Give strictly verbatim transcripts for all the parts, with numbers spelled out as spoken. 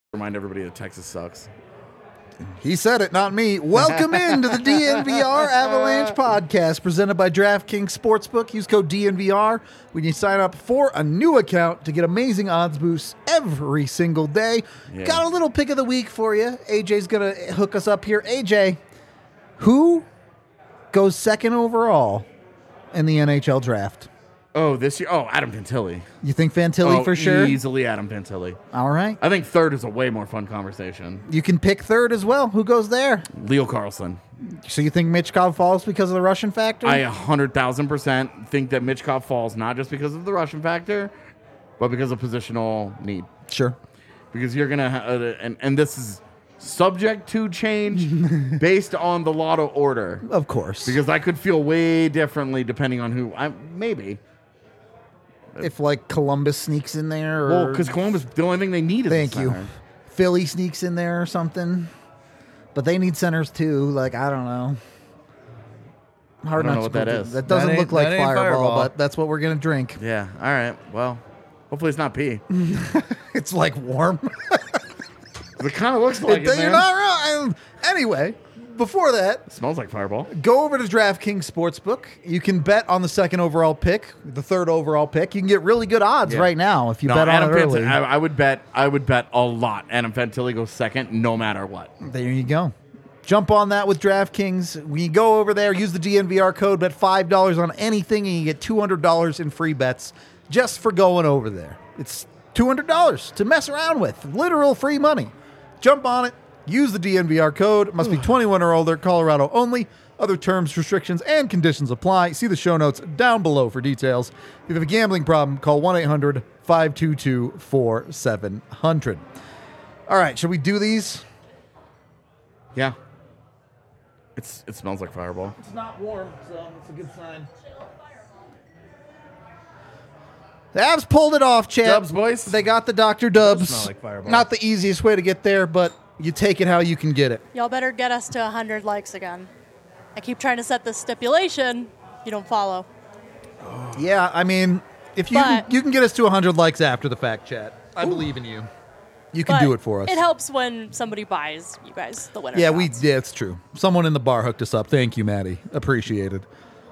Remind everybody that Texas sucks. He said it, not me. Welcome into the D N V R Avalanche podcast presented by DraftKings Sportsbook. Use code D N V R when you sign up for a new account to get amazing odds boosts every single day. Yeah. Got a little pick of the week for you. A J's going to hook us up here. A J, who goes second overall in the N H L draft? Oh, this year? Oh, Adam Fantilli. You think Fantilli oh, for sure? Easily Adam Fantilli. All right. I think third is a way more fun conversation. You can pick third as well. Who goes there? Leo Carlson. So you think Michkov falls because of the Russian factor? I one hundred thousand percent think that Michkov falls not just because of the Russian factor, but because of positional need. Sure. Because you're going to, ha- uh, and, and this is subject to change based on the lotto order. Of course. Because I could feel way differently depending on who, I maybe. If, like, Columbus sneaks in there. Or Well, because Columbus, the only thing they need is Thank a you. center. Philly sneaks in there or something. But they need centers, too. Like, I don't know. Hard I don't not know what to that believe. is. That doesn't That ain't- look like that ain't fireball, Fireball. but that's what we're going to drink. Yeah, all right. Well, hopefully it's not pee. It's, like, warm. It kind of looks like it, You're man. not wrong. Anyway, before that, It smells like Fireball. go over to DraftKings Sportsbook. You can bet on the second overall pick, the third overall pick. You can get really good odds Yeah. right now if you No, bet on Adam it early. Fantilli, I, I would bet. I would bet a lot. Adam Fantilli goes second, no matter what. There you go. Jump on that with DraftKings. When you go over there, use the D N V R code, bet five dollars on anything, and you get two hundred dollars in free bets just for going over there. It's two hundred dollars to mess around with. Literal free money. Jump on it. Use the D N V R code. It must be twenty-one or older, Colorado only. Other terms, restrictions, and conditions apply. See the show notes down below for details. If you have a gambling problem, call one eight hundred five two two four seven zero zero. All right, should we do these? Yeah. It's it smells like Fireball. It's not warm, so it's a good sign. The Avs pulled it off, champ. Dubs, boys. They got the Doctor Dubs. smell like Fireball. Not the easiest way to get there, but you take it how you can get it. Y'all better get us to one hundred likes again. I keep trying to set this stipulation. You don't follow. Yeah, I mean, if you But- you can get us to one hundred likes after the fact, chat. I believe in you. You can But do it for us. It helps when somebody buys you guys the winner. Yeah, we shots. yeah, it's true. Someone in the bar hooked us up. Thank you, Maddie. Appreciated.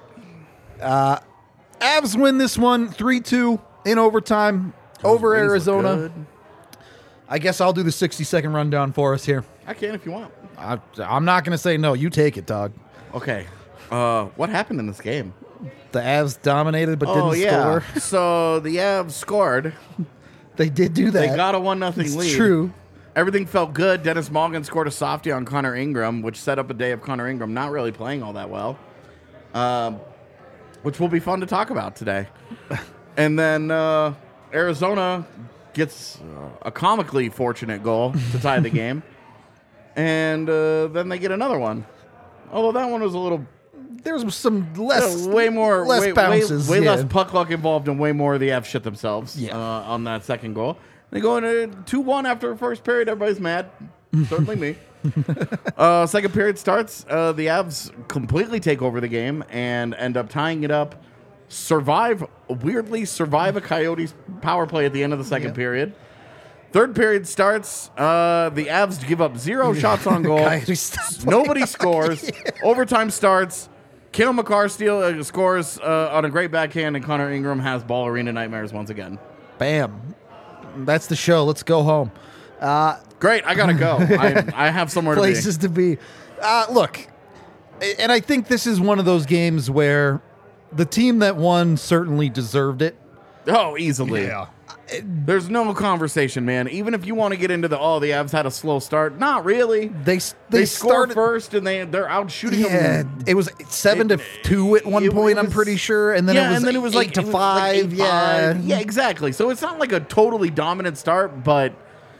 Uh, Avs win this one three two in overtime over Wings look Arizona. good. I guess I'll do the sixty second rundown for us here. I can if you want. I, I'm not going to say no. You take it, dog. Okay. Uh, what happened in this game? The Avs dominated but oh didn't yeah. score. So the Avs scored. They did do that. They got a one nothing It's lead. true. Everything felt good. Dennis Morgan scored a softie on Connor Ingram, which set up a day of Connor Ingram not really playing all that well, um, which will be fun to talk about today. And then uh, Arizona gets uh, a comically fortunate goal to tie the game, and uh, then they get another one. Although that one was a little There's some less, uh, way more, less way, bounces. way, way yeah. less puck luck involved, and way more of the Avs shit themselves. Yeah. Uh, on that second goal, they go into two one after the first period. Everybody's mad, certainly me. uh, second period starts. Uh, the Avs completely take over the game and end up tying it up. Survive weirdly survive a Coyotes power play at the end of the second Yeah. period. Third period starts. Uh, the Avs give up zero shots on goal. Coyotes stop Nobody scores. Overtime starts. Kale McCarr steal, uh, scores uh, on a great backhand, and Connor Ingram has ball arena nightmares once again. Bam. That's the show. Let's go home. Uh, Great, I gotta go. I, I have somewhere to places to be. Uh, look, and I think this is one of those games where the team that won certainly deserved it. be. Oh, easily. There's no conversation, man. Even if you want to get into the oh, the Avs had a slow start, not really. They They, they, score started first, and they they're out shooting Yeah, them. it was seven It- to two at one it point. I'm was- pretty sure, and then yeah, it was and then it was eight like to it was like five. eight, yeah, five. yeah, exactly. So it's not like a totally dominant start, but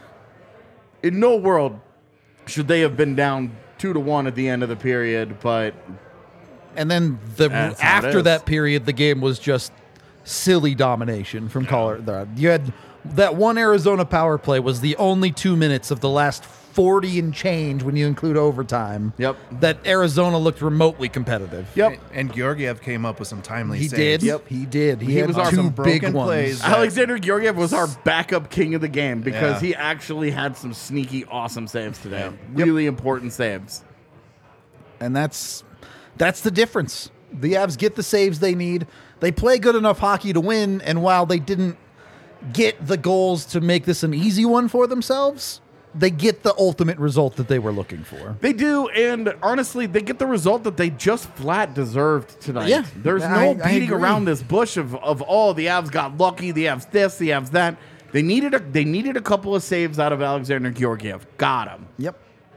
in no world should they have been down two to one at the end of the period. But And then the That's how it after is. that period, the game was just silly domination from Colorado. You had that one Arizona power play was the only two minutes of the last forty and change when you include overtime. Yep. That Arizona looked remotely competitive. Yep. And Georgiev came up with some timely He saves. did. Yep. He did. He, He had was our- two some big broken ones. plays. Alexander Georgiev was our backup king of the game because Yeah. he actually had some sneaky, awesome saves today. Really important saves. And that's that's the difference. The Avs get the saves they need. They play good enough hockey to win, and while they didn't get the goals to make this an easy one for themselves, they get the ultimate result that they were looking for. They do, and honestly, they get the result that they just flat deserved tonight. Yeah, There's I- no I beating agree. around this bush of, of oh, the Avs got lucky, the Avs this, the Avs that. They needed a they needed a couple of saves out of Alexander Georgiev. Got him. Yep.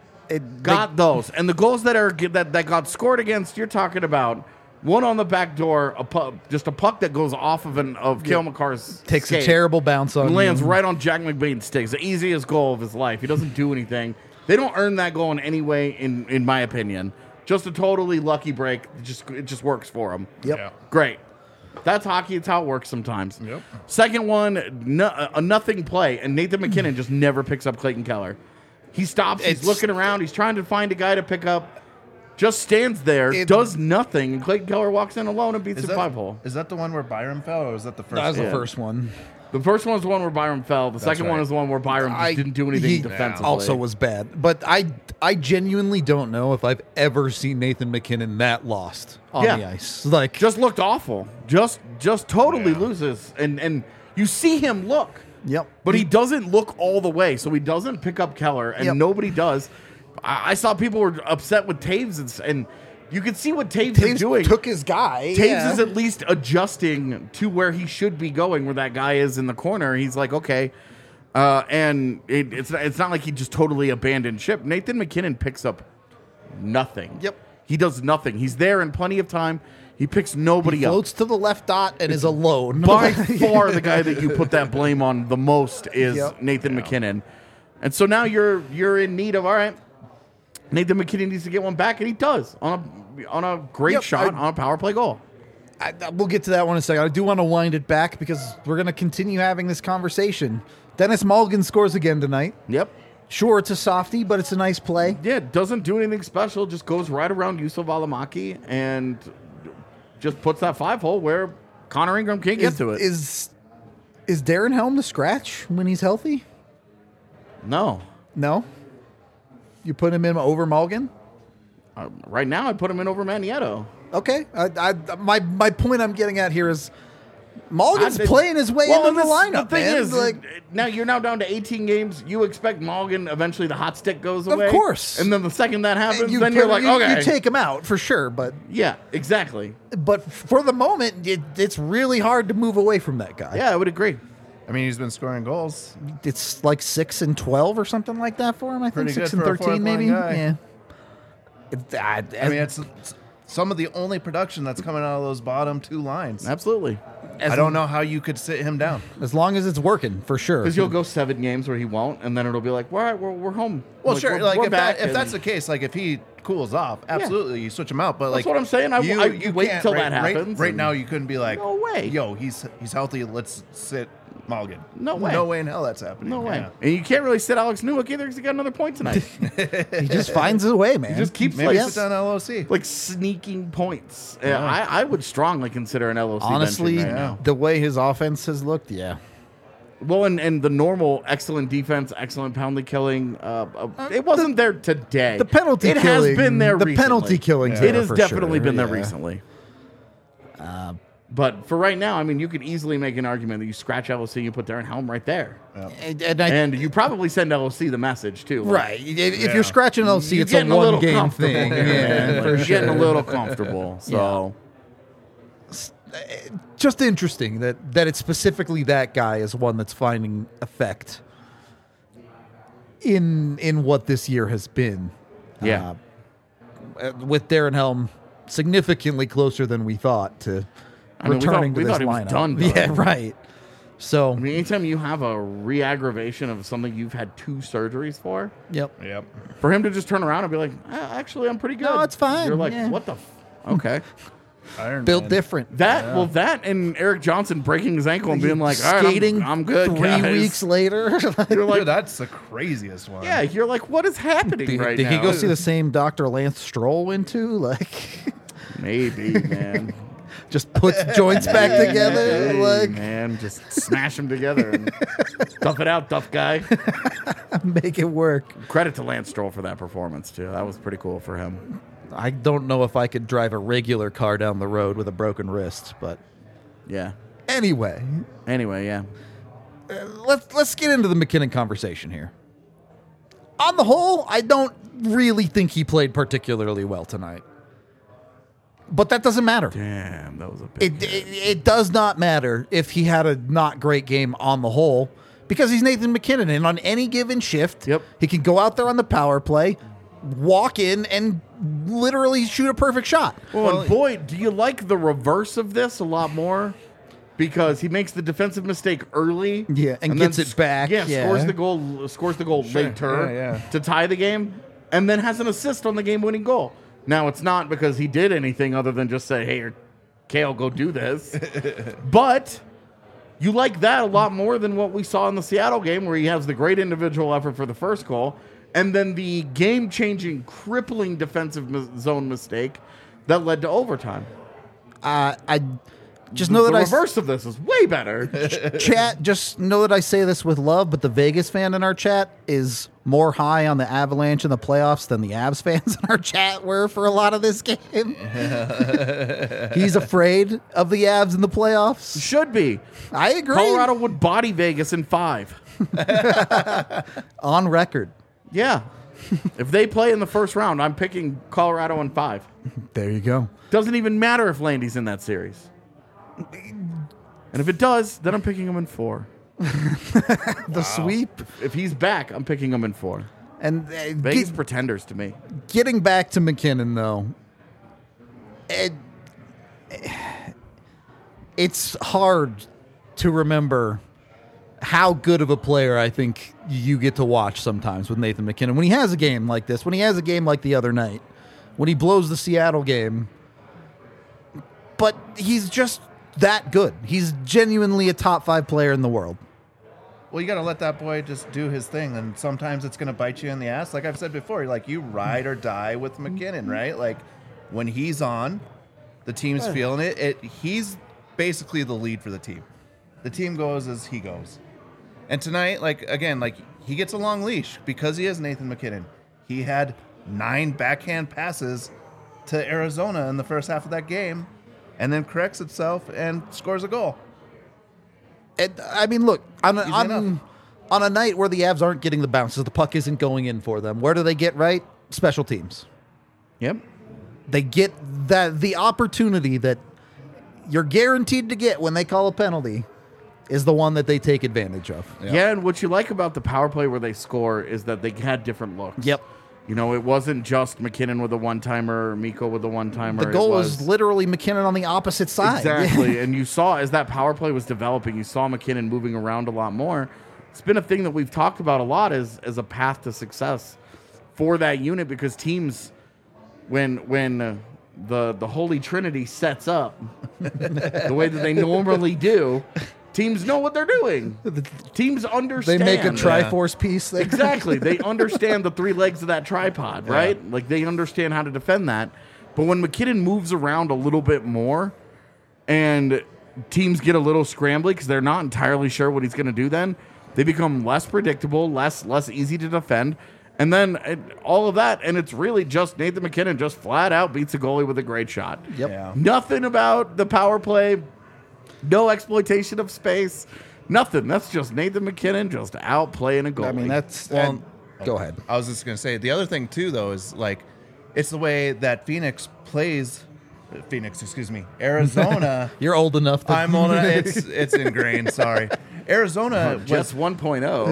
It, Got those. And the goals that are that, that got scored against, you're talking about one on the back door, a pu- just a puck that goes off of an of Cale McCarr's takes skate a terrible bounce on and lands you. right on Jack McBain's sticks. The easiest goal of his life. He doesn't do anything. They don't earn that goal in any way, in in my opinion. Just a totally lucky break. It just it just works for him. Yep. Yeah. Great. That's hockey. It's how it works sometimes. Yep. Second one, no, a nothing play, and Nathan McKinnon just never picks up Clayton Keller. He stops. He's It's- looking around. He's trying to find a guy to pick up. Just stands there, It- does nothing, and Clayton Keller walks in alone and beats Is the that, five hole. is that the one where Byram fell, or was that the first That was one? the first one. The first one was the one where Byram fell. The second one right. is the one where Byram just I- didn't do anything he defensively. Also was bad, but I I genuinely don't know if I've ever seen Nathan McKinnon that lost on Yeah. the ice. Like just looked awful. Just just totally Yeah. loses, and and you see him look. Yep. But he doesn't look all the way, so he doesn't pick up Keller, and Yep. nobody does. I, I saw people were upset with Taves, and, s- and you could see what Taves, Taves is doing. took his guy. Taves yeah. is at least adjusting to where he should be going, where that guy is in the corner. He's like, okay. Uh, and it, it's, it's not like he just totally abandoned ship. Nathan McKinnon picks up nothing. Yep. He does nothing. He's there in plenty of time. He picks nobody He up. floats to the left dot and is alone. By far, the guy that you put that blame on the most is Yep. Nathan McKinnon. And so now you're you're in need of, all right, Nathan McKinnon needs to get one back, and he does on a on a great Yep, shot I- on a power play goal. I, I- we'll get to that one in a second. I do want to wind it back because we're going to continue having this conversation. Dennis Mulligan scores again tonight. Yep. Sure, it's a softie, but it's a nice play. Yeah, doesn't do anything special. Just goes right around Yusuf Alamaki and just puts that five hole where Connor Ingram can't get Is, to it. is is Darren Helm the scratch when he's healthy? no. No. You put him in over Mulligan? Uh, right now, I put him in over Manietto. Okay. I, I, my my point I'm getting at here is Mulligan's I- playing his way Well, into the this- lineup. The thing man. is, like, now you're now down to eighteen games. You expect Mulligan eventually the hot stick goes Of away. course. And then the second that happens, you then put- you're like, you, okay. you take him out for sure, but yeah, exactly. but for the moment, it, it's really hard to move away from that guy. Yeah, I would agree. I mean, he's been scoring goals. It's like six and twelve or something like that for him. I think Pretty six good and for a thirteen, fourth-line maybe. guy. Yeah. It, I, I mean, it's, it's some of the only production that's coming out of those bottom two lines. Absolutely. I don't know how you could sit him down. as long as it's working for sure. Because you'll go seven games where he won't, and then it'll be like, all right, we're, we're home. Well, Like, sure. we're, Like we're if, back. that, if that's the and- case, like if he cools off, absolutely you switch him out. But like what I'm saying. I- you, I- you wait can't- till right, that right- happens Right, and- now, you couldn't be like, No way. Yo, he's he's healthy. Let's sit Mulligan. No way. No way in hell that's happening. No way. Yeah. And you can't really sit Alex Newhook either because he got another point tonight. he just finds his way, man. He just keeps Maybe like, sit down L O C. like sneaking points. Yeah, I, I would strongly consider an L O C Honestly, benching right now. the way his offense has looked, yeah. Well, and, and the normal excellent defense, excellent penalty killing, uh, uh, it wasn't there today. The penalty it killing, has been there the recently. penalty killing's It there has for definitely sure, been there yeah. recently. But for right now, I mean, you could easily make an argument that you scratch L O C, you put Darren Helm right there. And, and I, And you probably send L O C the message, too. like, right. If if you're scratching L C, you're it's a getting a little one game comfortable thing. here, Yeah, man. Like, for you're sure. getting a little comfortable. So, Just interesting that that it's specifically that guy is one that's finding effect in in what this year has been. yeah. Uh, with Darren Helm significantly closer than we thought to I mean, we thought- returning we to this thought he was lineup. done, done. Yeah, right. So, I mean, anytime you have a re-aggravation of something you've had two surgeries for, yep. Yep. for him to just turn around and be like, "Ah, actually, I'm pretty good. No, it's fine, You're like, yeah. what the? F-? Okay. Iron Built Man. different. That well, that and Eric Johnson breaking his ankle and being like, "All right, skating I'm, I'm good." three guys." weeks later. You're like, Dude, that's the craziest one. yeah, you're like, what is happening did right did now? he go see the same Doctor Lance Stroll went to? Like, Maybe, man. just puts joints back together. Hey, Like, man, just smash them together and tough it out, tough guy. make it work. Credit to Lance Stroll for that performance too. That was pretty cool for him. I don't know if I could drive a regular car down the road with a broken wrist, but Yeah. anyway, Anyway, yeah. let's let's get into the McKinnon conversation here. On the whole, I don't really think he played particularly well tonight. But that doesn't matter. Damn, that was a big. It, it it does not matter if he had a not great game on the whole, because he's Nathan McKinnon, and on any given shift, Yep. he can go out there on the power play, walk in, and literally shoot a perfect shot. Well, and boy, do you like the reverse of this a lot more? Because he makes the defensive mistake early, Yeah, and then gets it sc- back, Yeah, yeah. scores the goal, scores the goal later yeah, yeah. to tie the game, and then has an assist on the game-winning goal. Now it's not because he did anything other than just say, "Hey, Kale, go do this." But you like that a lot more than what we saw in the Seattle game, where he has the great individual effort for the first goal, and then the game-changing, crippling defensive mis- zone mistake that led to overtime. Uh, I just know the that I s- reverse of this is way better. chat. Just know that I say this with love, but the Vegas fan in our chat is more high on the Avalanche in the playoffs than the Avs fans in our chat were for a lot of this game. He's afraid of the Avs in the playoffs. Should be. I agree. Colorado would body Vegas in five. On record. Yeah. If they play in the first round, I'm picking Colorado in five. There you go. Doesn't even matter if Landy's in that series. And if it does, then I'm picking him in four. The sweep. If he's back, I'm picking him in four. And uh, Vegas get- pretenders to me. getting back to McKinnon, though, it, it's hard to remember how good of a player I think you get to watch sometimes with Nathan McKinnon. When he has a game like this, when he has a game like the other night, when he blows the Seattle game, but he's just that good. He's genuinely a top five player in the world. Well, you got to let that boy just do his thing, and sometimes it's going to bite you in the ass. Like I've said before, like you ride or die with McKinnon, right? Like when he's on, the team's feeling it. It he's basically the lead for the team. The team goes as he goes. And tonight, like again, like he gets a long leash because he is Nathan McKinnon. He had nine backhand passes to Arizona in the first half of that game, and then corrects itself and scores a goal. And, I mean, look, on a, Easy on, enough. on a night where the Avs aren't getting the bounces, the puck isn't going in for them, where do they get right? Special teams. Yep. They get that the opportunity that you're guaranteed to get when they call a penalty is the one that they take advantage of. Yeah. and what you like about the power play where they score is that they had different looks. Yep. You know, it wasn't just McKinnon with a one-timer or Miko with a one-timer. The goal it was, literally McKinnon on the opposite side. Exactly. And you saw as that power play was developing, you saw McKinnon moving around a lot more. It's been a thing that we've talked about a lot as, as a path to success for that unit, because teams, when when uh, the the Holy Trinity sets up the way that they normally do, teams know what they're doing. Teams They understand. make a Triforce piece there. Exactly. They understand the three legs of that tripod, right? Like they understand how to defend that. But when McKinnon moves around a little bit more and teams get a little scrambly because they're not entirely sure what he's going to do, then they become less predictable, less less easy to defend. And then it, all of that, and it's really just Nathan McKinnon just flat out beats a goalie with a great shot. Yep. Yeah. Nothing about the power play, no exploitation of space, nothing. That's just Nathan McKinnon just outplaying a goalie. I mean, that's. Well, and- go ahead. I was just going to say, the other thing, too, though, is like, it's the way that Phoenix plays. Phoenix, excuse me. Arizona. You're old enough. That I'm on it. It's, it's ingrained. Sorry. Arizona, just was, one point oh.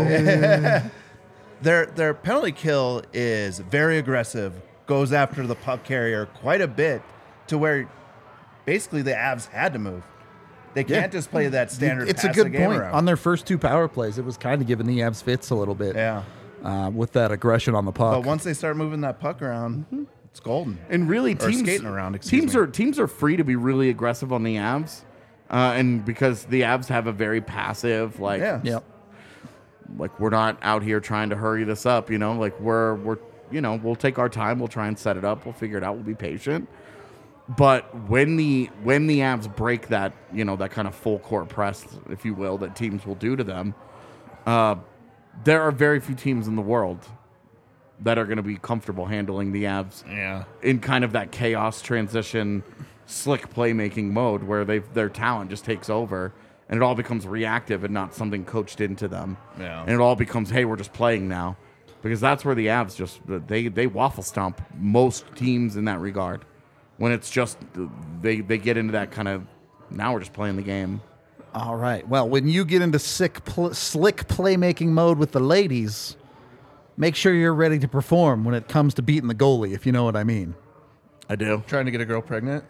their, their penalty kill is very aggressive, goes after the puck carrier quite a bit, to where basically the Avs had to move. They can't just play that standard It's a pass the good game point. around. On their first two power plays, it was kind of giving the Avs fits a little bit. Yeah. Uh, with that aggression on the puck. But once they start moving that puck around, It's golden. And really, Or teams skating around, excuse teams me. are teams are free to be really aggressive on the Avs, uh, and because the Avs have a very passive, like, Yeah. Yep. like we're not out here trying to hurry this up, you know. Like we're we're you know we'll take our time, we'll try and set it up, we'll figure it out, we'll be patient. But when the when the Avs break that, you know, that kind of full court press, if you will, that teams will do to them, uh, there are very few teams in the world that are going to be comfortable handling the Avs Yeah. in kind of that chaos transition, slick playmaking mode where they their talent just takes over and it all becomes reactive and not something coached into them. Yeah. And it all becomes, hey, we're just playing now, because that's where the Avs just they they waffle stomp most teams in that regard. When it's just they they get into that kind of, now we're just playing the game. All right. Well, when you get into sick, pl- slick playmaking mode with the ladies, make sure you're ready to perform when it comes to beating the goalie, if you know what I mean. I do. Trying to get a girl pregnant.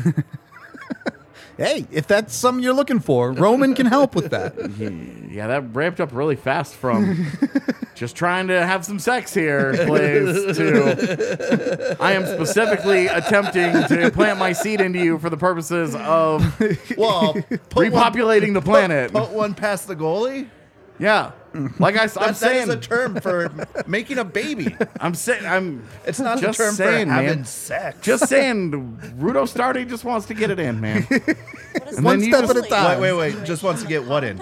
Hey, if that's something you're looking for, Roman can help with that. Yeah, that ramped up really fast from just trying to have some sex here, please, to I am specifically attempting to plant my seed into you for the purposes of Well, put repopulating one, the planet. Put, put one past the goalie. Yeah, like I, I'm That, that saying, is a term for making a baby. I'm saying, I'm. It's not just the term saying, for having man. sex. Just saying, Rudo Stardy just wants to get it in, man. What is And One then you step just- at a time. wait, wait, wait. Just wants to get what in?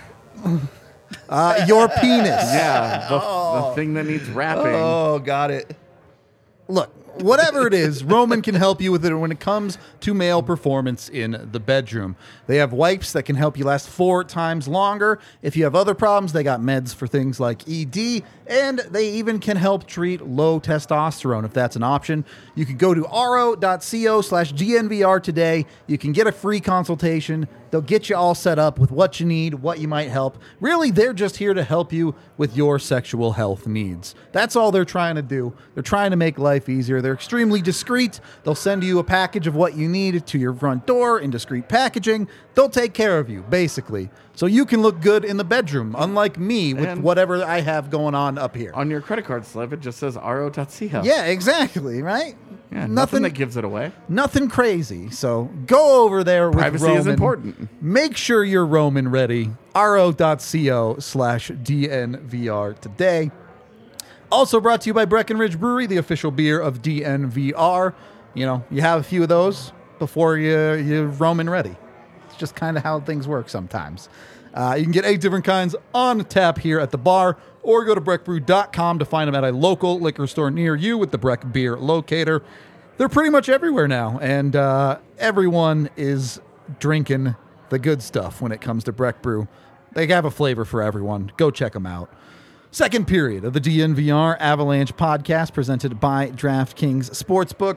Uh, your penis. Yeah, the, the thing that needs wrapping. Oh, got it. Look, whatever it is, Roman can help you with it when it comes to male performance in the bedroom. They have wipes that can help you last four times longer. If you have other problems, they got meds for things like E D, and they even can help treat low testosterone if that's an option. You can go to ro.co slash DNVR today. You can get a free consultation. They'll get you all set up with what you need, what you might help. Really, they're just here to help you with your sexual health needs. That's all they're trying to do. They're trying to make life easier. They're extremely discreet. They'll send you a package of what you need to your front door in discreet packaging. They'll take care of you, basically. So you can look good in the bedroom, unlike me with And- whatever I have going on up here. On your credit card slip, it just says ro.co. Yeah, exactly, right? Yeah, nothing, nothing, that gives it away. nothing crazy. So go over there with Privacy Roman. is important. Make sure you're Roman ready. ro.co slash DNVR today. Also brought to you by Breckenridge Brewery, the official beer of D N V R. You know, you have a few of those before you, you're Roman ready. It's just kind of how things work sometimes. Uh, you can get eight different kinds on tap here at the bar, or go to breck brew dot com to find them at a local liquor store near you with the Breck Beer Locator. They're pretty much everywhere now, and uh, everyone is drinking the good stuff when it comes to Breck Brew. They have a flavor for everyone. Go check them out. Second period of the D N V R Avalanche podcast presented by DraftKings Sportsbook.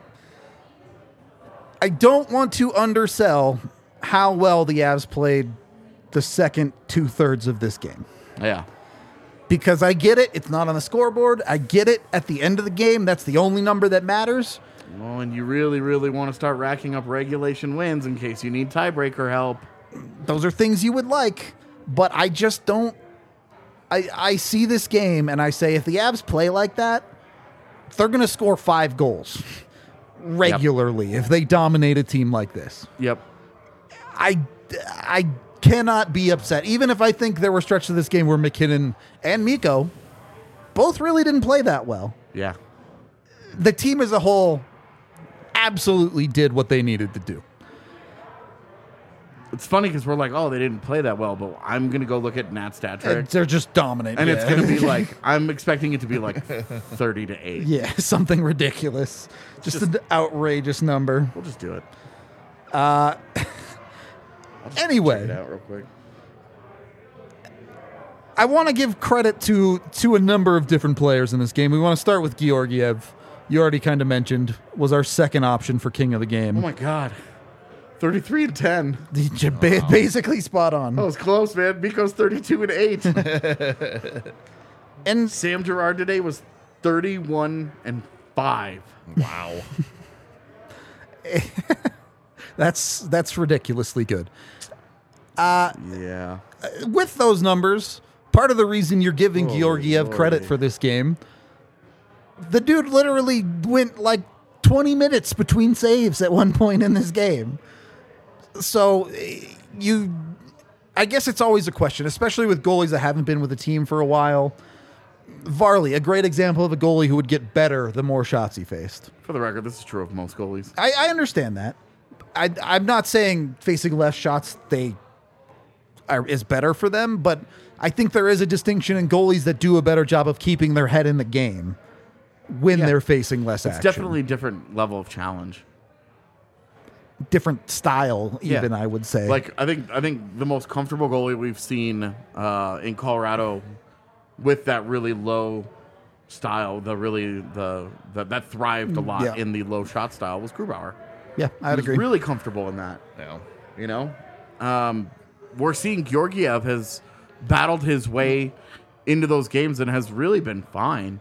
I don't want to undersell how well the Avs played the second two-thirds of this game. Yeah. Because I get it, it's not on the scoreboard. I get it, at the end of the game, that's the only number that matters. Well, and you really, really want to start racking up regulation wins in case you need tiebreaker help. Those are things you would like, but I just don't. I, I see this game and I say, if the Avs play like that, they're going to score five goals regularly if they dominate a team like this. Yep. I, I cannot be upset. Even if I think there were stretches of this game where McKinnon and Mikko both really didn't play that well. Yeah. The team as a whole absolutely did what they needed to do. It's funny because we're like, oh, they didn't play that well, but I'm going to go look at Nat stat trick. And they're just dominant. And yeah. it's going to be like, I'm expecting it to be like thirty to eight. Yeah, something ridiculous. Just, Just- an outrageous number. We'll just do it. Check it Anyway, out real quick. I want to give credit to to a number of different players in this game. We want to start with Georgiev. You already kind of mentioned was our second option for king of the Oh game. my God. thirty-three and ten. Ba- Basically spot on. That was close, man. Miko's thirty-two and eight. And Sam Girard today was thirty-one and five. Wow. that's that's ridiculously good. Yeah. With those numbers, part of the reason you're giving Holy Georgiev credit lordy. for this game, the dude literally went like twenty minutes between saves at one point in this game. So eh, you, I guess it's always a question, especially with goalies that haven't been with the team for a while. Varley, a great example of a goalie who would get better the more shots he faced. For the record, this is true of most goalies. I, I understand that. I, I'm not saying facing less shots they are, is better for them, but I think there is a distinction in goalies that do a better job of keeping their head in the game when Yeah. they're facing less It's action. definitely a different level of challenge. Different style, Yeah. even, I would say. Like I think I think the most comfortable goalie we've seen uh, in Colorado with that really low style, the really the, the that thrived a lot Yeah. in the low shot style was Grubauer. yeah, He I'd was agree. really comfortable in that. Yeah. You know, um, we're seeing Georgiev has battled his way into those games and has really been fine.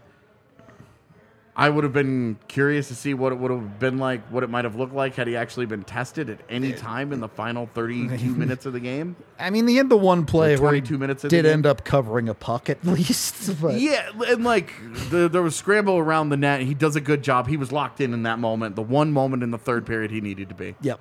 I would have been curious to see what it would have been like, what it might have looked like had he actually been tested at any time in the final thirty-two minutes of the game. I mean, the end of one play Or where he twenty-two minutes in the did game. end up covering a puck at least. But Yeah, and like the, there was scramble around the net. He does a good job. He was locked in in that moment, the one moment in the third period he needed to be. Yep.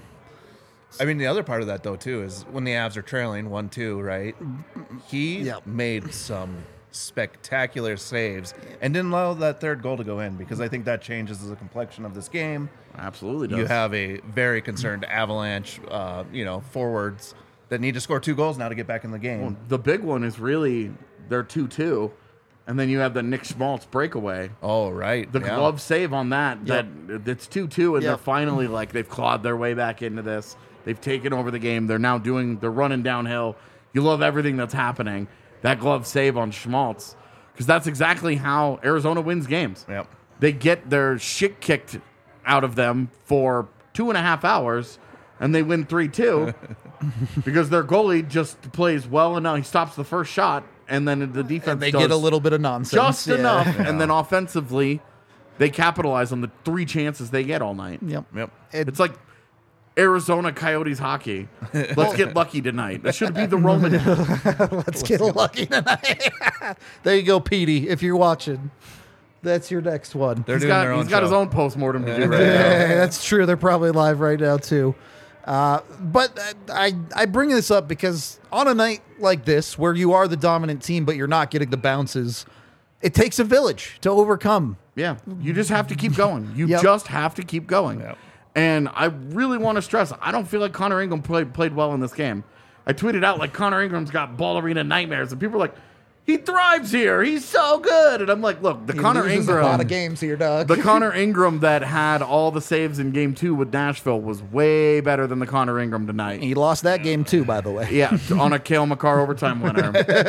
I mean, the other part of that, though, too, is when the Avs are trailing one two, right? He Yep. made some spectacular saves and didn't allow that third goal to go in because I think that changes the complexion of this game. Absolutely does. You have a very concerned Avalanche, uh, you know, forwards that need to score two goals now to get back in the game. The big one is really they're two two, and then you have the Nick Schmaltz breakaway. Oh, right. The yeah. glove save on that, Yep. that it's two two, and Yep. they're finally like they've clawed their way back into this. They've taken over the game. They're now doing, they're running downhill. You love everything that's happening. That glove save on Schmaltz, because that's exactly how Arizona wins games. Yep. They get their shit kicked out of them for two and a half hours, and they win three two because their goalie just plays well enough. He stops the first shot, and then the defense And they does get a little bit of nonsense. just Yeah. enough, and then offensively, they capitalize on the three chances they get all night. Yep. Yep. It- It's like Arizona Coyotes hockey. Let's get lucky tonight. That should be the Roman. Let's get lucky tonight. There you go, Petey, if you're watching. That's your next one. They're He's doing got, their own he's got his show. own postmortem to do right Yeah, now. that's true. They're probably live right now too. Uh, but I I bring this up because on a night like this, where you are the dominant team but you're not getting the bounces, it takes a village to overcome. Yeah, you just have to keep going. You Yep. just have to keep going. Yep. And I really want to stress, I don't feel like Connor Ingram played played well in this game. I tweeted out like Connor Ingram's got ball arena nightmares, and people are like, he thrives here. He's so good. And I'm like, look, the He Connor loses Ingram, a lot of games here, Doug. the Connor Ingram that had all the saves in game two with Nashville was way better than the Connor Ingram tonight. He lost that game too, by the way. Yeah, on a Kale McCarr overtime winner.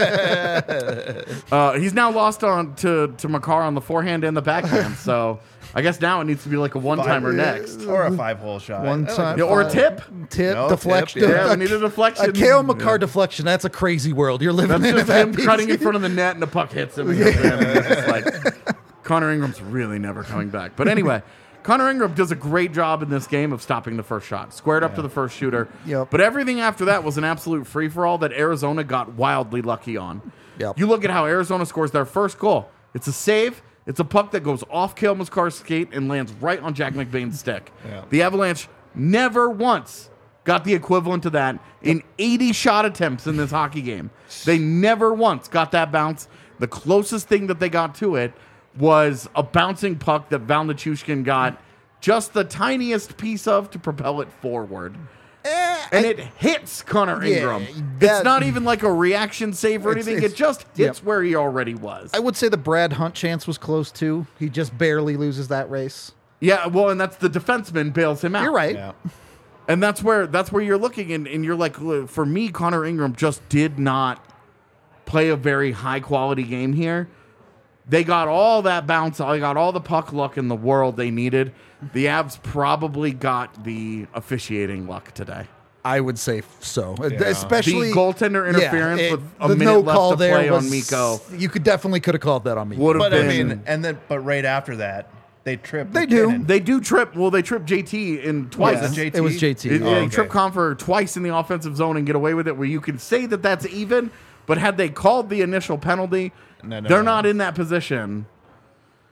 uh, he's now lost on to, to McCarr on the forehand and the backhand. So I guess now it needs to be like a one-timer next. Or a five-hole shot. One I like time- Yeah, or a tip. Tip, No, deflection. tip, Yeah, a, we need a deflection. a Kale McCarr deflection. That's a crazy world. You're living That's in just that him piece. cutting in front of the net and the puck hits him. And goes in, and it's just like, Connor Ingram's really never coming back. But anyway, Connor Ingram does a great job in this game of stopping the first shot. Squared up to the first shooter. Yep. But everything after that was an absolute free-for-all that Arizona got wildly lucky on. Yep. You look at how Arizona scores their first goal. It's a save. It's a puck that goes off Kale McCarr's skate and lands right on Jack McBain's stick. Yeah. The Avalanche never once got the equivalent to that in eighty shot attempts in this hockey game. They never once got that bounce. The closest thing that they got to it was a bouncing puck that Val Nichushkin got just the tiniest piece of to propel it forward. And it hits Connor Yeah, Ingram. that- it's not even like a reaction save or It's- anything. it's- it just hits yep. where he already was. I would say the Brad Hunt chance was close too. He just barely loses that race. yeah, well, and that's the defenseman bails him out. You're right. Yeah. And that's where that's where you're looking, and, and you're like, look, for me, Connor Ingram just did not play a very high quality game here. They got all that bounce, they got all the puck luck in the world they needed. The Avs probably got the officiating luck today. I would say so. Yeah. Especially The goaltender interference it- with a the minute no left call to there play on was- Mikko. You could definitely could have called that on me. Would have But I been. mean, and then, but right after that, they tripped. They do. McKinnon. they do trip. Well, they trip J T in twice. Was it J T? It was J T. It- Oh, they okay. trip Confer twice in the offensive zone and get away with it, where you can say that that's even. But had they called the initial penalty, No, no, they're no. not in that position.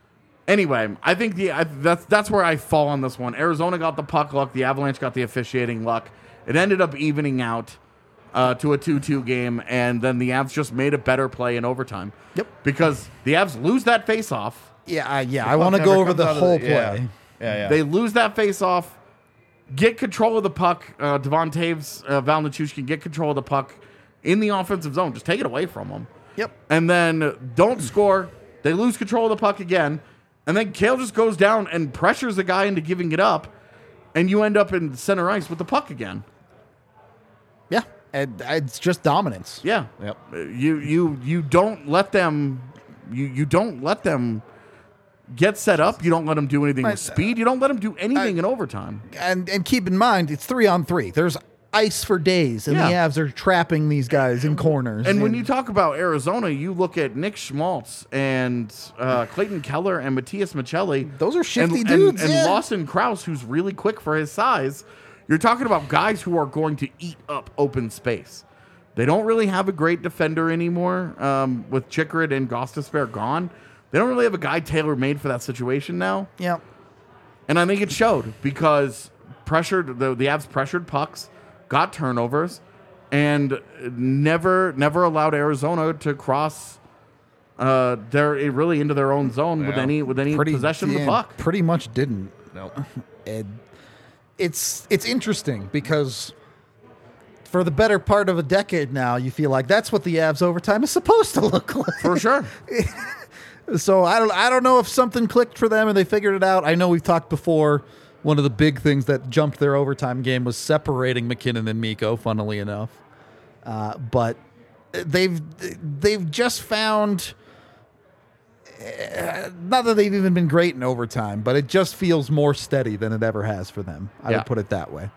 Anyway, I think the I, that's that's where I fall on this one. Arizona got the puck luck. The Avalanche got the officiating luck. It ended up evening out uh, to a two two game, and then the Avs just made a better play in overtime. Yep. Because the Avs lose that faceoff. Yeah, I, yeah. The I want to puck go never over comes the out of whole the- yeah. play. Yeah, yeah. They lose that faceoff, get control of the puck. Uh, Devon Taves, uh, Val Nichushkin get control of the puck in the offensive zone. Just take it away from them. Yep. And then don't score. They lose control of the puck again. And then Kale just goes down and pressures the guy into giving it up. And you end up in center ice with the puck again. Yeah, and it's just dominance. Yeah. Yep. Uh, You you you don't let them you you don't let them get set up. You don't let them do anything with speed. You don't let them do anything in overtime. And and keep in mind, it's three on three. There's ice for days, and the Yeah. Avs are trapping these guys in corners. And when you talk about Arizona, you look at Nick Schmaltz and uh, Clayton Keller and Matthias Michelli. Those are shifty and, dudes, And, and yeah. Lawson Krause, who's really quick for his size. You're talking about guys who are going to eat up open space. They don't really have a great defender anymore um, with Chikrin and Gostisbehere gone. They don't really have a guy tailor-made for that situation now. yeah, And I think it showed because pressured the, the Avs pressured pucks, got turnovers, and never never allowed Arizona to cross uh, their really into their own zone with Yeah. any with any possession of yeah, the puck. pretty much didn't. Nope. And it's it's interesting because for the better part of a decade now, you feel like that's what the Avs overtime is supposed to look like. For sure. So I don't I don't know if something clicked for them and they figured it out. I know we've talked before. One of the big things that jumped their overtime game was separating McKinnon and Mikko, funnily enough. Uh, but they've they've just found uh, not that they've even been great in overtime, but it just feels more steady than it ever has for them. I Yeah. would put it that way.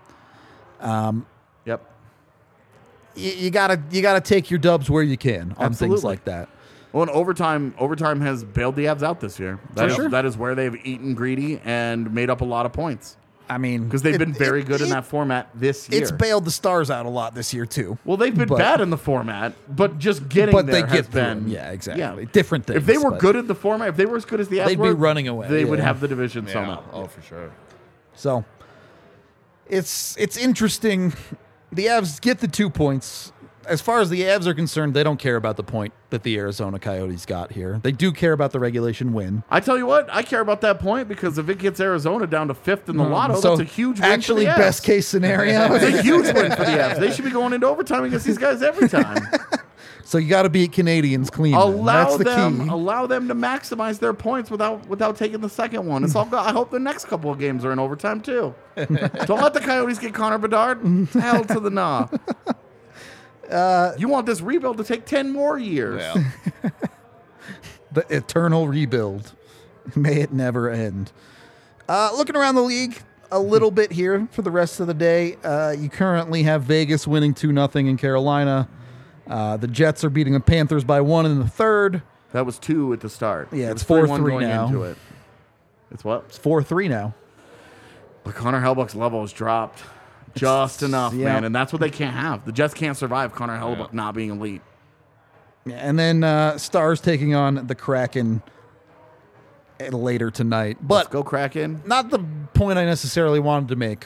Yep. You, you gotta you gotta take your dubs where you can on things Absolutely. like that. Well, and overtime overtime has bailed the Avs out this year. That For is, sure. that is where they've eaten greedy and made up a lot of points I mean, because they've it- been very it- good in it- that format this year. It's bailed the Stars out a lot this year too. Well, they've been But- bad in the format, but just getting But there they has get through been them. Yeah, exactly. Different If things, they were but- good at the format, if they were as good as the Avs They'd be were, running away, They would yeah. have the division sewn Yeah. up. Oh, for sure. So it's it's interesting. The Avs get the two points. As far as the Avs are concerned, they don't care about the point that the Arizona Coyotes got here. They do care about the regulation win. I tell you what, I care about that point because if it gets Arizona down to fifth in the lotto, so that's a huge win actually for the Avs. best case scenario. It's a huge win for the Avs. They should be going into overtime against these guys every time. So you got to beat Canadians clean. then. allow That's the them, key. allow them to maximize their points without without taking the second one. It's all. go- I hope the next couple of games are in overtime too. Don't let the Coyotes get Connor Bedard. Hell to the nah. Uh, you want this rebuild to take ten more years. Yeah. The eternal rebuild. May it never end. Uh, looking around the league a little bit here for the rest of the day. Uh, you currently have Vegas winning two nothing in Carolina. Uh, the Jets are beating the Panthers by one in the third. That was two at the start. Yeah, It it's was three one four three going now. into it. It's what? It's four three now. But Connor Hellebuyck's level has dropped just enough, yeah. man, and that's what they can't have. The Jets can't survive Connor Hellebuck not being elite. Yeah, and then uh, Stars taking on the Kraken uh, later tonight. Let's But go Kraken. not the point I necessarily wanted to make.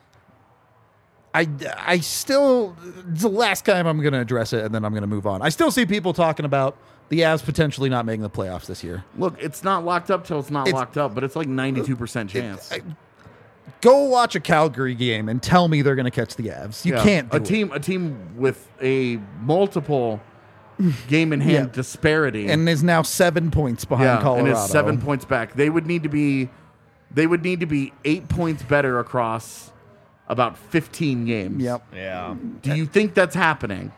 I, I still, it's the last time I'm going to address it, and then I'm going to move on. I still see people talking about the Avs potentially not making the playoffs this year. Look, it's not locked up till it's not It's- locked up, but it's like ninety-two percent chance. I- Go watch a Calgary game and tell me they're going to catch the Avs. You Yeah. can't do a it. team a team with a multiple game in hand Yeah. disparity. And is now seven points behind yeah, Colorado. and is seven points back. They would need to be they would need to be eight points better across about fifteen games. Yep. Yeah. Do you think that's happening?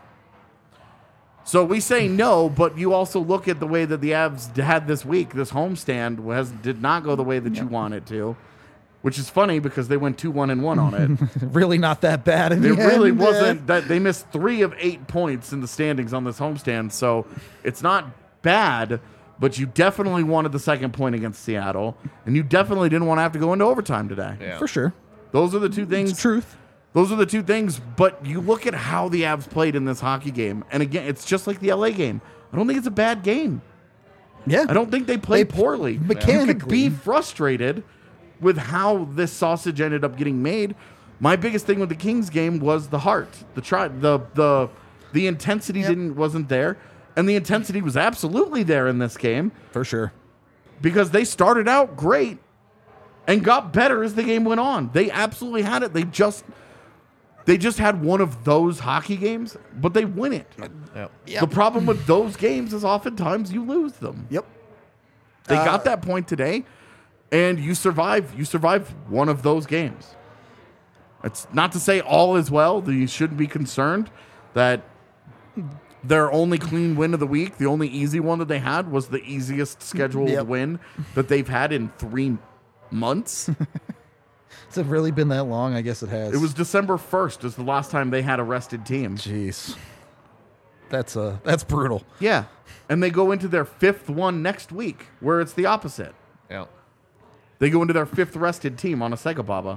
So we say no, but you also look at the way that the Avs had this week. This homestand has did not go the way that you want it to, which is funny because they went two one and one on it. Really not that bad in It the really end. wasn't. That they missed three of eight points in the standings on this homestand, so it's not bad. But you definitely wanted the second point against Seattle, and you definitely didn't want to have to go into overtime today. Yeah. For sure. Those are the two things. It's truth. Those are the two things. But you look at how the Avs played in this hockey game, and again, it's just like the L A game. I don't think it's a bad game. Yeah. I don't think they played They- poorly. You could mechanically. be frustrated with how this sausage ended up getting made. My biggest thing with the Kings game was the heart. The try the the the intensity Yep. didn't wasn't there. And the intensity was absolutely there in this game For sure. because they started out great and got better as the game went on. They absolutely had it. They just they just had one of those hockey games, but they win it. Yep. The problem with those games is oftentimes you lose them. Yep. They Uh, got that point today, and you survive. You survive one of those games. It's not to say all is well. That you shouldn't be concerned that their only clean win of the week, the only easy one that they had, was the easiest scheduled Yep. win that they've had in three months. Has it really been that long? I guess it has. It was December first is the last time they had a rested team. Jeez. That's uh that's brutal. Yeah. And they go into their fifth one next week, where it's the opposite. Yeah. They go into their fifth rested team on a Sega Baba.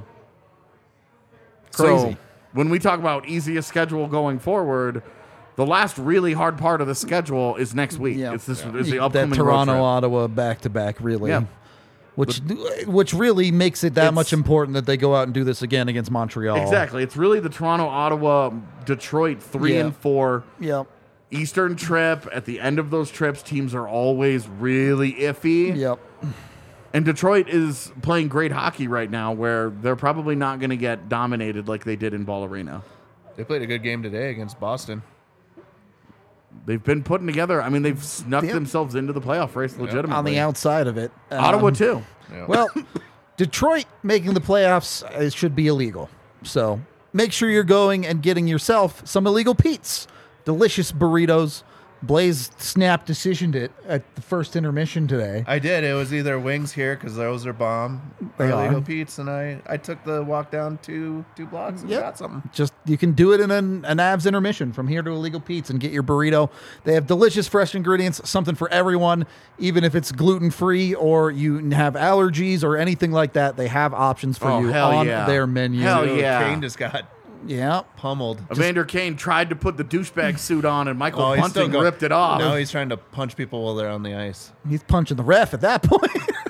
Crazy. So when we talk about easiest schedule going forward, the last really hard part of the schedule is next week. Yeah. It's this Yeah. is the that upcoming road Toronto trip. Ottawa back to back really. Yeah. Which which really makes it that It's- much important that they go out and do this again against Montreal. Exactly. It's really the Toronto, Ottawa, Detroit three Yeah. and four Yep. Eastern trip. At the end of those trips, teams are always really iffy. Yep. And Detroit is playing great hockey right now, where they're probably not going to get dominated like they did in Ball Arena. They played a good game today against Boston. They've been putting together. I mean, they've snuck Yep. themselves into the playoff race legitimately. On the outside of it. Ottawa Um, too. Yeah. Well, Detroit making the playoffs uh, should be illegal. So make sure you're going and getting yourself some illegal Pete's. Delicious burritos. Blaze snap decisioned it at the first intermission today. I did. It was either wings here because those are bomb, They or are. Lego Pete's, and I, I took the walk down two two blocks and Yep. got something. Just you can do it in an, an abs intermission from here to Illegal Pete's and get your burrito. They have delicious fresh ingredients, something for everyone, even if it's gluten free or you have allergies or anything like that. They have options for Oh, you hell on yeah. their menu. Hell Dude, yeah. Kane just got Yeah. pummeled. Evander Kane tried to put the douchebag suit on, and Michael Oh, he's still Bunting go- ripped it off. Now he's trying to punch people while they're on the ice. He's punching the ref at that point.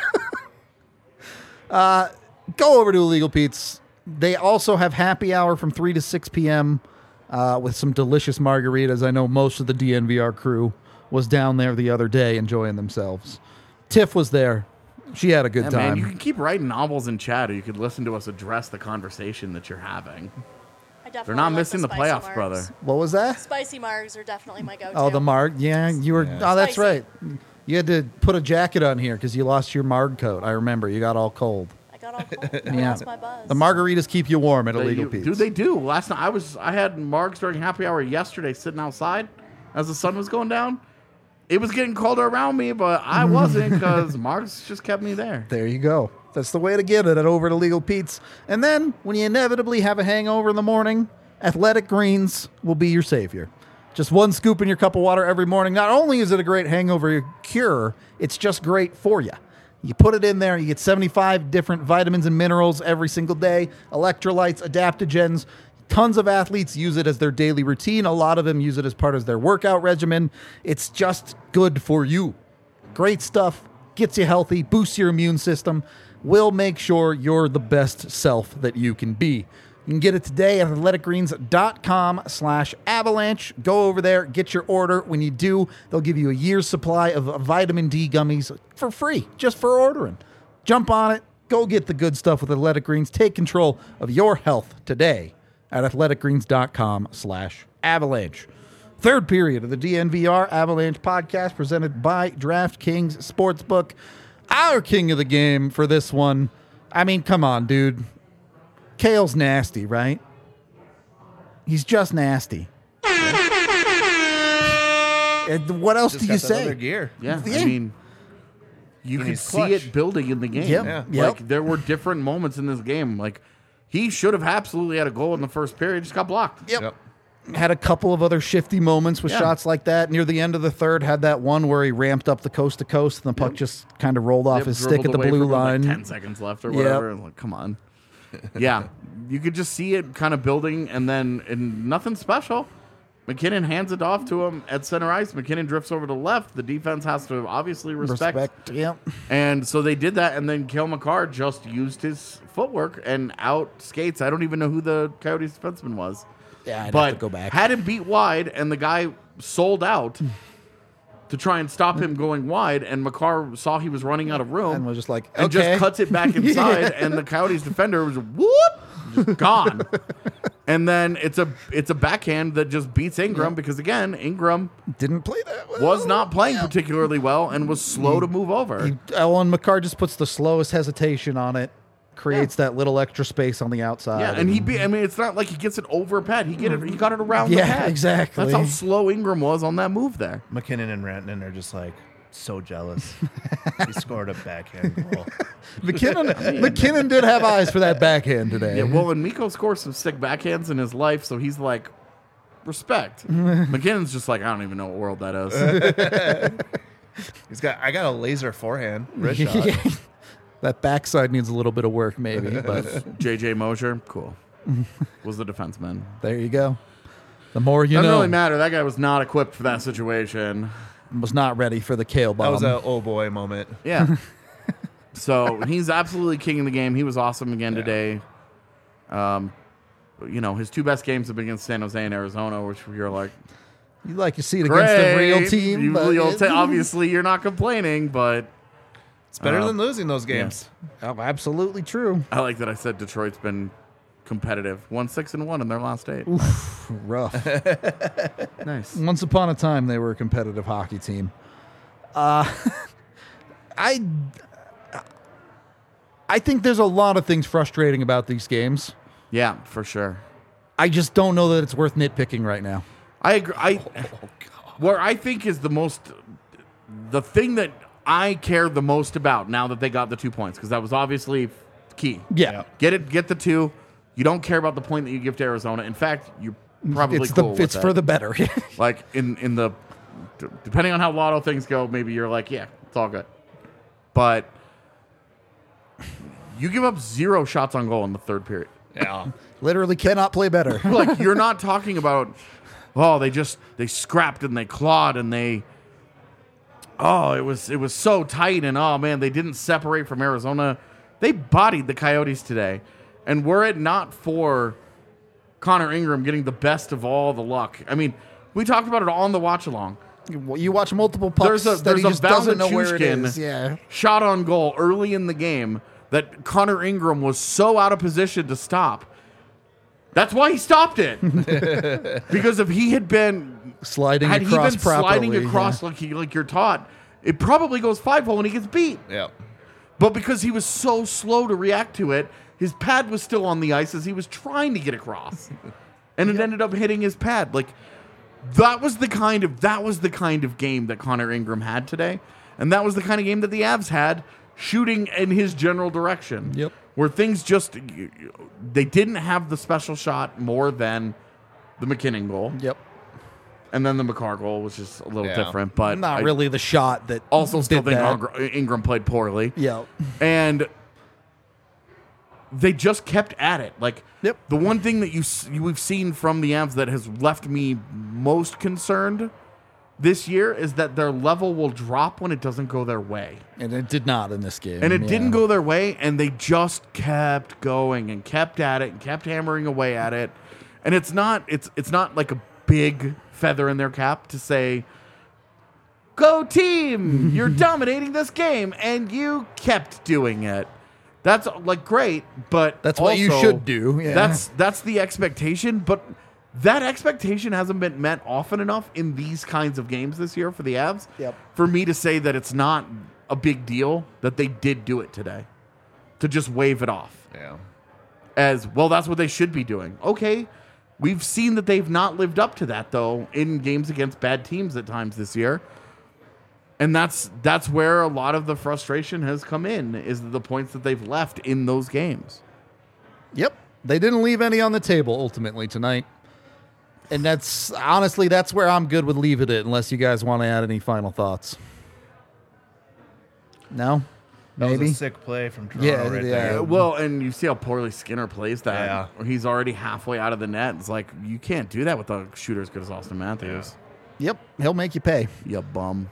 uh, go over to Illegal Pete's. They also have happy hour from three to six p.m. Uh, with some delicious margaritas. I know most of the D N V R crew was down there the other day enjoying themselves. Tiff was there. She had a good Yeah, time. man, you can keep writing novels in chat, or you could listen to us address the conversation that you're having. I definitely They're not like missing the, spicy playoffs, margs. brother. What was that? Spicy margs are definitely my go-to. Oh, the marg. Yeah, you were. Yeah. Oh, that's Spicy. right. You had to put a jacket on here because you lost your marg coat. I remember. You got all cold. I got all cold. I Yeah. lost my buzz. The margaritas keep you warm at They- Illegal you- Pete's. do they do? Last night I was I had margs during happy hour yesterday, sitting outside as the sun was going down. It was getting colder around me, but I wasn't because margs just kept me there. There you go. That's the way to get it at over at Illegal Pete's. And then when you inevitably have a hangover in the morning, Athletic Greens will be your savior. Just one scoop in your cup of water every morning. Not only is it a great hangover cure, it's just great for you. You put it in there, you get seventy-five different vitamins and minerals every single day, electrolytes, adaptogens. Tons of athletes use it as their daily routine. A lot of them use it as part of their workout regimen. It's just good for you. Great stuff. Gets you healthy, boosts your immune system, will make sure you're the best self that you can be. You can get it today at athleticgreens.com slash avalanche. Go over there, get your order. When you do, they'll give you a year's supply of vitamin D gummies for free, just for ordering. Jump on it. Go get the good stuff with Athletic Greens. Take control of your health today at athleticgreens.com slash avalanche. Third period of the D N V R Avalanche podcast presented by DraftKings Sportsbook. Our king of the game for this one. I mean, come on, dude. Kale's nasty, right? He's just nasty. And what else Just do got you that say? other gear. Yeah, Yeah. I mean, you And could he's see clutch. it building in the game. Yep, Yeah. yep. Like there were different moments in this game. Like he should have absolutely had a goal in the first period, just got blocked. Yep. Yep. Had a couple of other shifty moments with Yeah. shots like that. Near the end of the third, had that one where he ramped up the coast to coast and the puck just kind of rolled off Yep, his stick at dribbled the away blue from, like, line. ten seconds left or Yep. whatever. Like, come on. Yeah, you could just see it kind of building, and then and nothing special. McKinnon hands it off to him at center ice. McKinnon drifts over to the left. The defense has to obviously respect. Respect, yep. And so they did that, and then Cale Makar just used his footwork and out skates. I don't even know who the Coyotes defenseman was. Yeah, I'd but have to go back. had him beat wide, and the guy sold out to try and stop him going wide, and Makar saw he was running out of room. And was just like, and okay. just cuts it back inside, and the Coyotes defender was whoop, just gone. And then it's a it's a backhand that just beats Ingram because again, Ingram Didn't play that well. was not playing particularly well and was slow to move over. He, Ellen McCarr just puts the slowest hesitation on it, creates that little extra space on the outside. Yeah, and he be I mean it's not like he gets it over pad. He get it he got it around the Yeah, pad. exactly. That's how slow Ingram was on that move there. McKinnon and Rantanen are just like so jealous. He scored a backhand goal. McKinnon, McKinnon did have eyes for that backhand today. Yeah, well, and Mikko scores some sick backhands in his life, so he's like, respect. McKinnon's just like, I don't even know what world that is. He's got I got a laser forehand wrist shot. That backside needs a little bit of work, maybe, but J J Mosier, cool. Was the defenseman. there you go. The more you Doesn't know. really matter. That guy was not equipped for that situation. Was not ready for the kale bomb. That was a oh boy moment. Yeah. So he's absolutely king of the game. He was awesome again Yeah. today. Um, you know, his two best games have been against San Jose and Arizona, which you're like, You like to see it great. against the real team. You, but you'll it- ta- obviously, you're not complaining, but It's better Uh, than losing those games. Oh, absolutely true. I like that I said Detroit's been competitive. One six and one in their last eight. Rough. Nice. Once upon a time, they were a competitive hockey team. Uh, I, I think there's a lot of things frustrating about these games. Yeah, for sure. I just don't know that it's worth nitpicking right now. I agree. I, where I think is the most, the thing that I care the most about now that they got the two points, because that was obviously key. Yeah. Yeah. Get it, get the two. You don't care about the point that you give to Arizona. In fact, you're probably It's cool the with it's that. for the better. Like in in the, d- depending on how lotto things go, maybe you're like, yeah, it's all good. But you give up zero shots on goal in the third period. Yeah. Literally cannot play better. Like you're not talking about, oh, they just they scrapped and they clawed and they, oh, it was it was so tight and oh man, they didn't separate from Arizona. They bodied the Coyotes today, and were it not for Connor Ingram getting the best of all the luck, I mean, we talked about it on the watch along. You watch multiple pucks There's a that he there's just a doesn't know where it Valenchushkin is. Yeah. shot on goal early in the game that Connor Ingram was so out of position to stop. That's why he stopped it. Because if he had been Sliding had he across been properly. sliding across yeah. like he, like you're taught, it probably goes five hole and he gets beat. Yeah. But because he was so slow to react to it, his pad was still on the ice as he was trying to get across, and it ended up hitting his pad. Like that was the kind of that was the kind of game that Connor Ingram had today, and that was the kind of game that the Avs had, shooting in his general direction. Yep. Where things just they didn't have the special shot more than the McKinnon goal, Yep. and then the Makar goal, which is a little Yeah. different, but Not I really the shot that Also, still did think that. Ingram- Ingram played poorly. Yeah. And they just kept at it. Like Yep. the one thing that you s- you- we've seen from the Avs that has left me most concerned this year is that their level will drop when it doesn't go their way. And it did not in this game. And it yeah. didn't go their way, and they just kept going and kept at it and kept hammering away at it. And it's not it's it's not like a big feather in their cap to say, "Go team, you're dominating this game," and you kept doing it. That's like great, but That's what you also, should do, yeah. That's that's the expectation, but that expectation hasn't been met often enough in these kinds of games this year for the Avs. Yep. For me to say that it's not a big deal that they did do it today, to just wave it off Yeah. as well. That's what they should be doing. Okay, we've seen that they've not lived up to that though in games against bad teams at times this year. And that's that's where a lot of the frustration has come in, is the points that they've left in those games. Yep. They didn't leave any on the table ultimately tonight. And that's honestly, that's where I'm good with leaving it, unless you guys want to add any final thoughts. No? That maybe. was a sick play from Toronto Yeah, right yeah. there. Uh, well, and you see how poorly Skinner plays that. Yeah. He's already halfway out of the net. It's like, you can't do that with a shooter as good as Austin Matthews. Yep, he'll make you pay. You bum.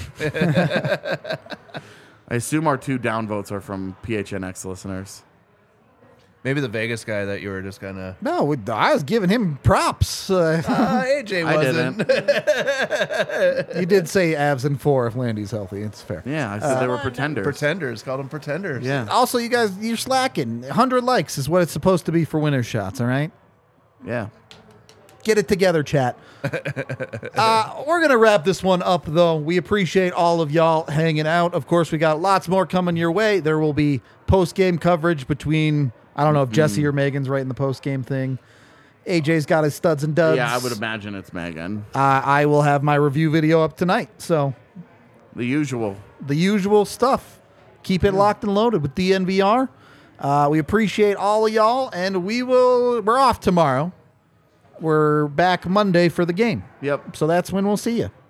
I assume our two downvotes are from P H N X listeners. Maybe the Vegas guy that you were just kind of. No, we- I was giving him props. Uh, Uh, A J I wasn't. didn't. you did say Avs in four if Landy's healthy. It's fair. Yeah, I said they were Uh, pretenders. Pretenders. Called them pretenders. Yeah. Also, you guys, you're slacking. one hundred likes is what it's supposed to be for winner shots, all right? Yeah. Get it together, chat. uh, we're going to wrap this one up, though. We appreciate all of y'all hanging out. Of course, we got lots more coming your way. There will be post-game coverage between, I don't know if Jesse or Megan's writing the post-game thing. A J's got his studs and duds. Yeah, I would imagine it's Megan. Uh, I will have my review video up tonight. So The usual. the usual stuff. Keep it locked and loaded with D N V R. Uh, we appreciate all of y'all, and we will. We're off tomorrow. We're back Monday for the game. Yep. So that's when we'll see you.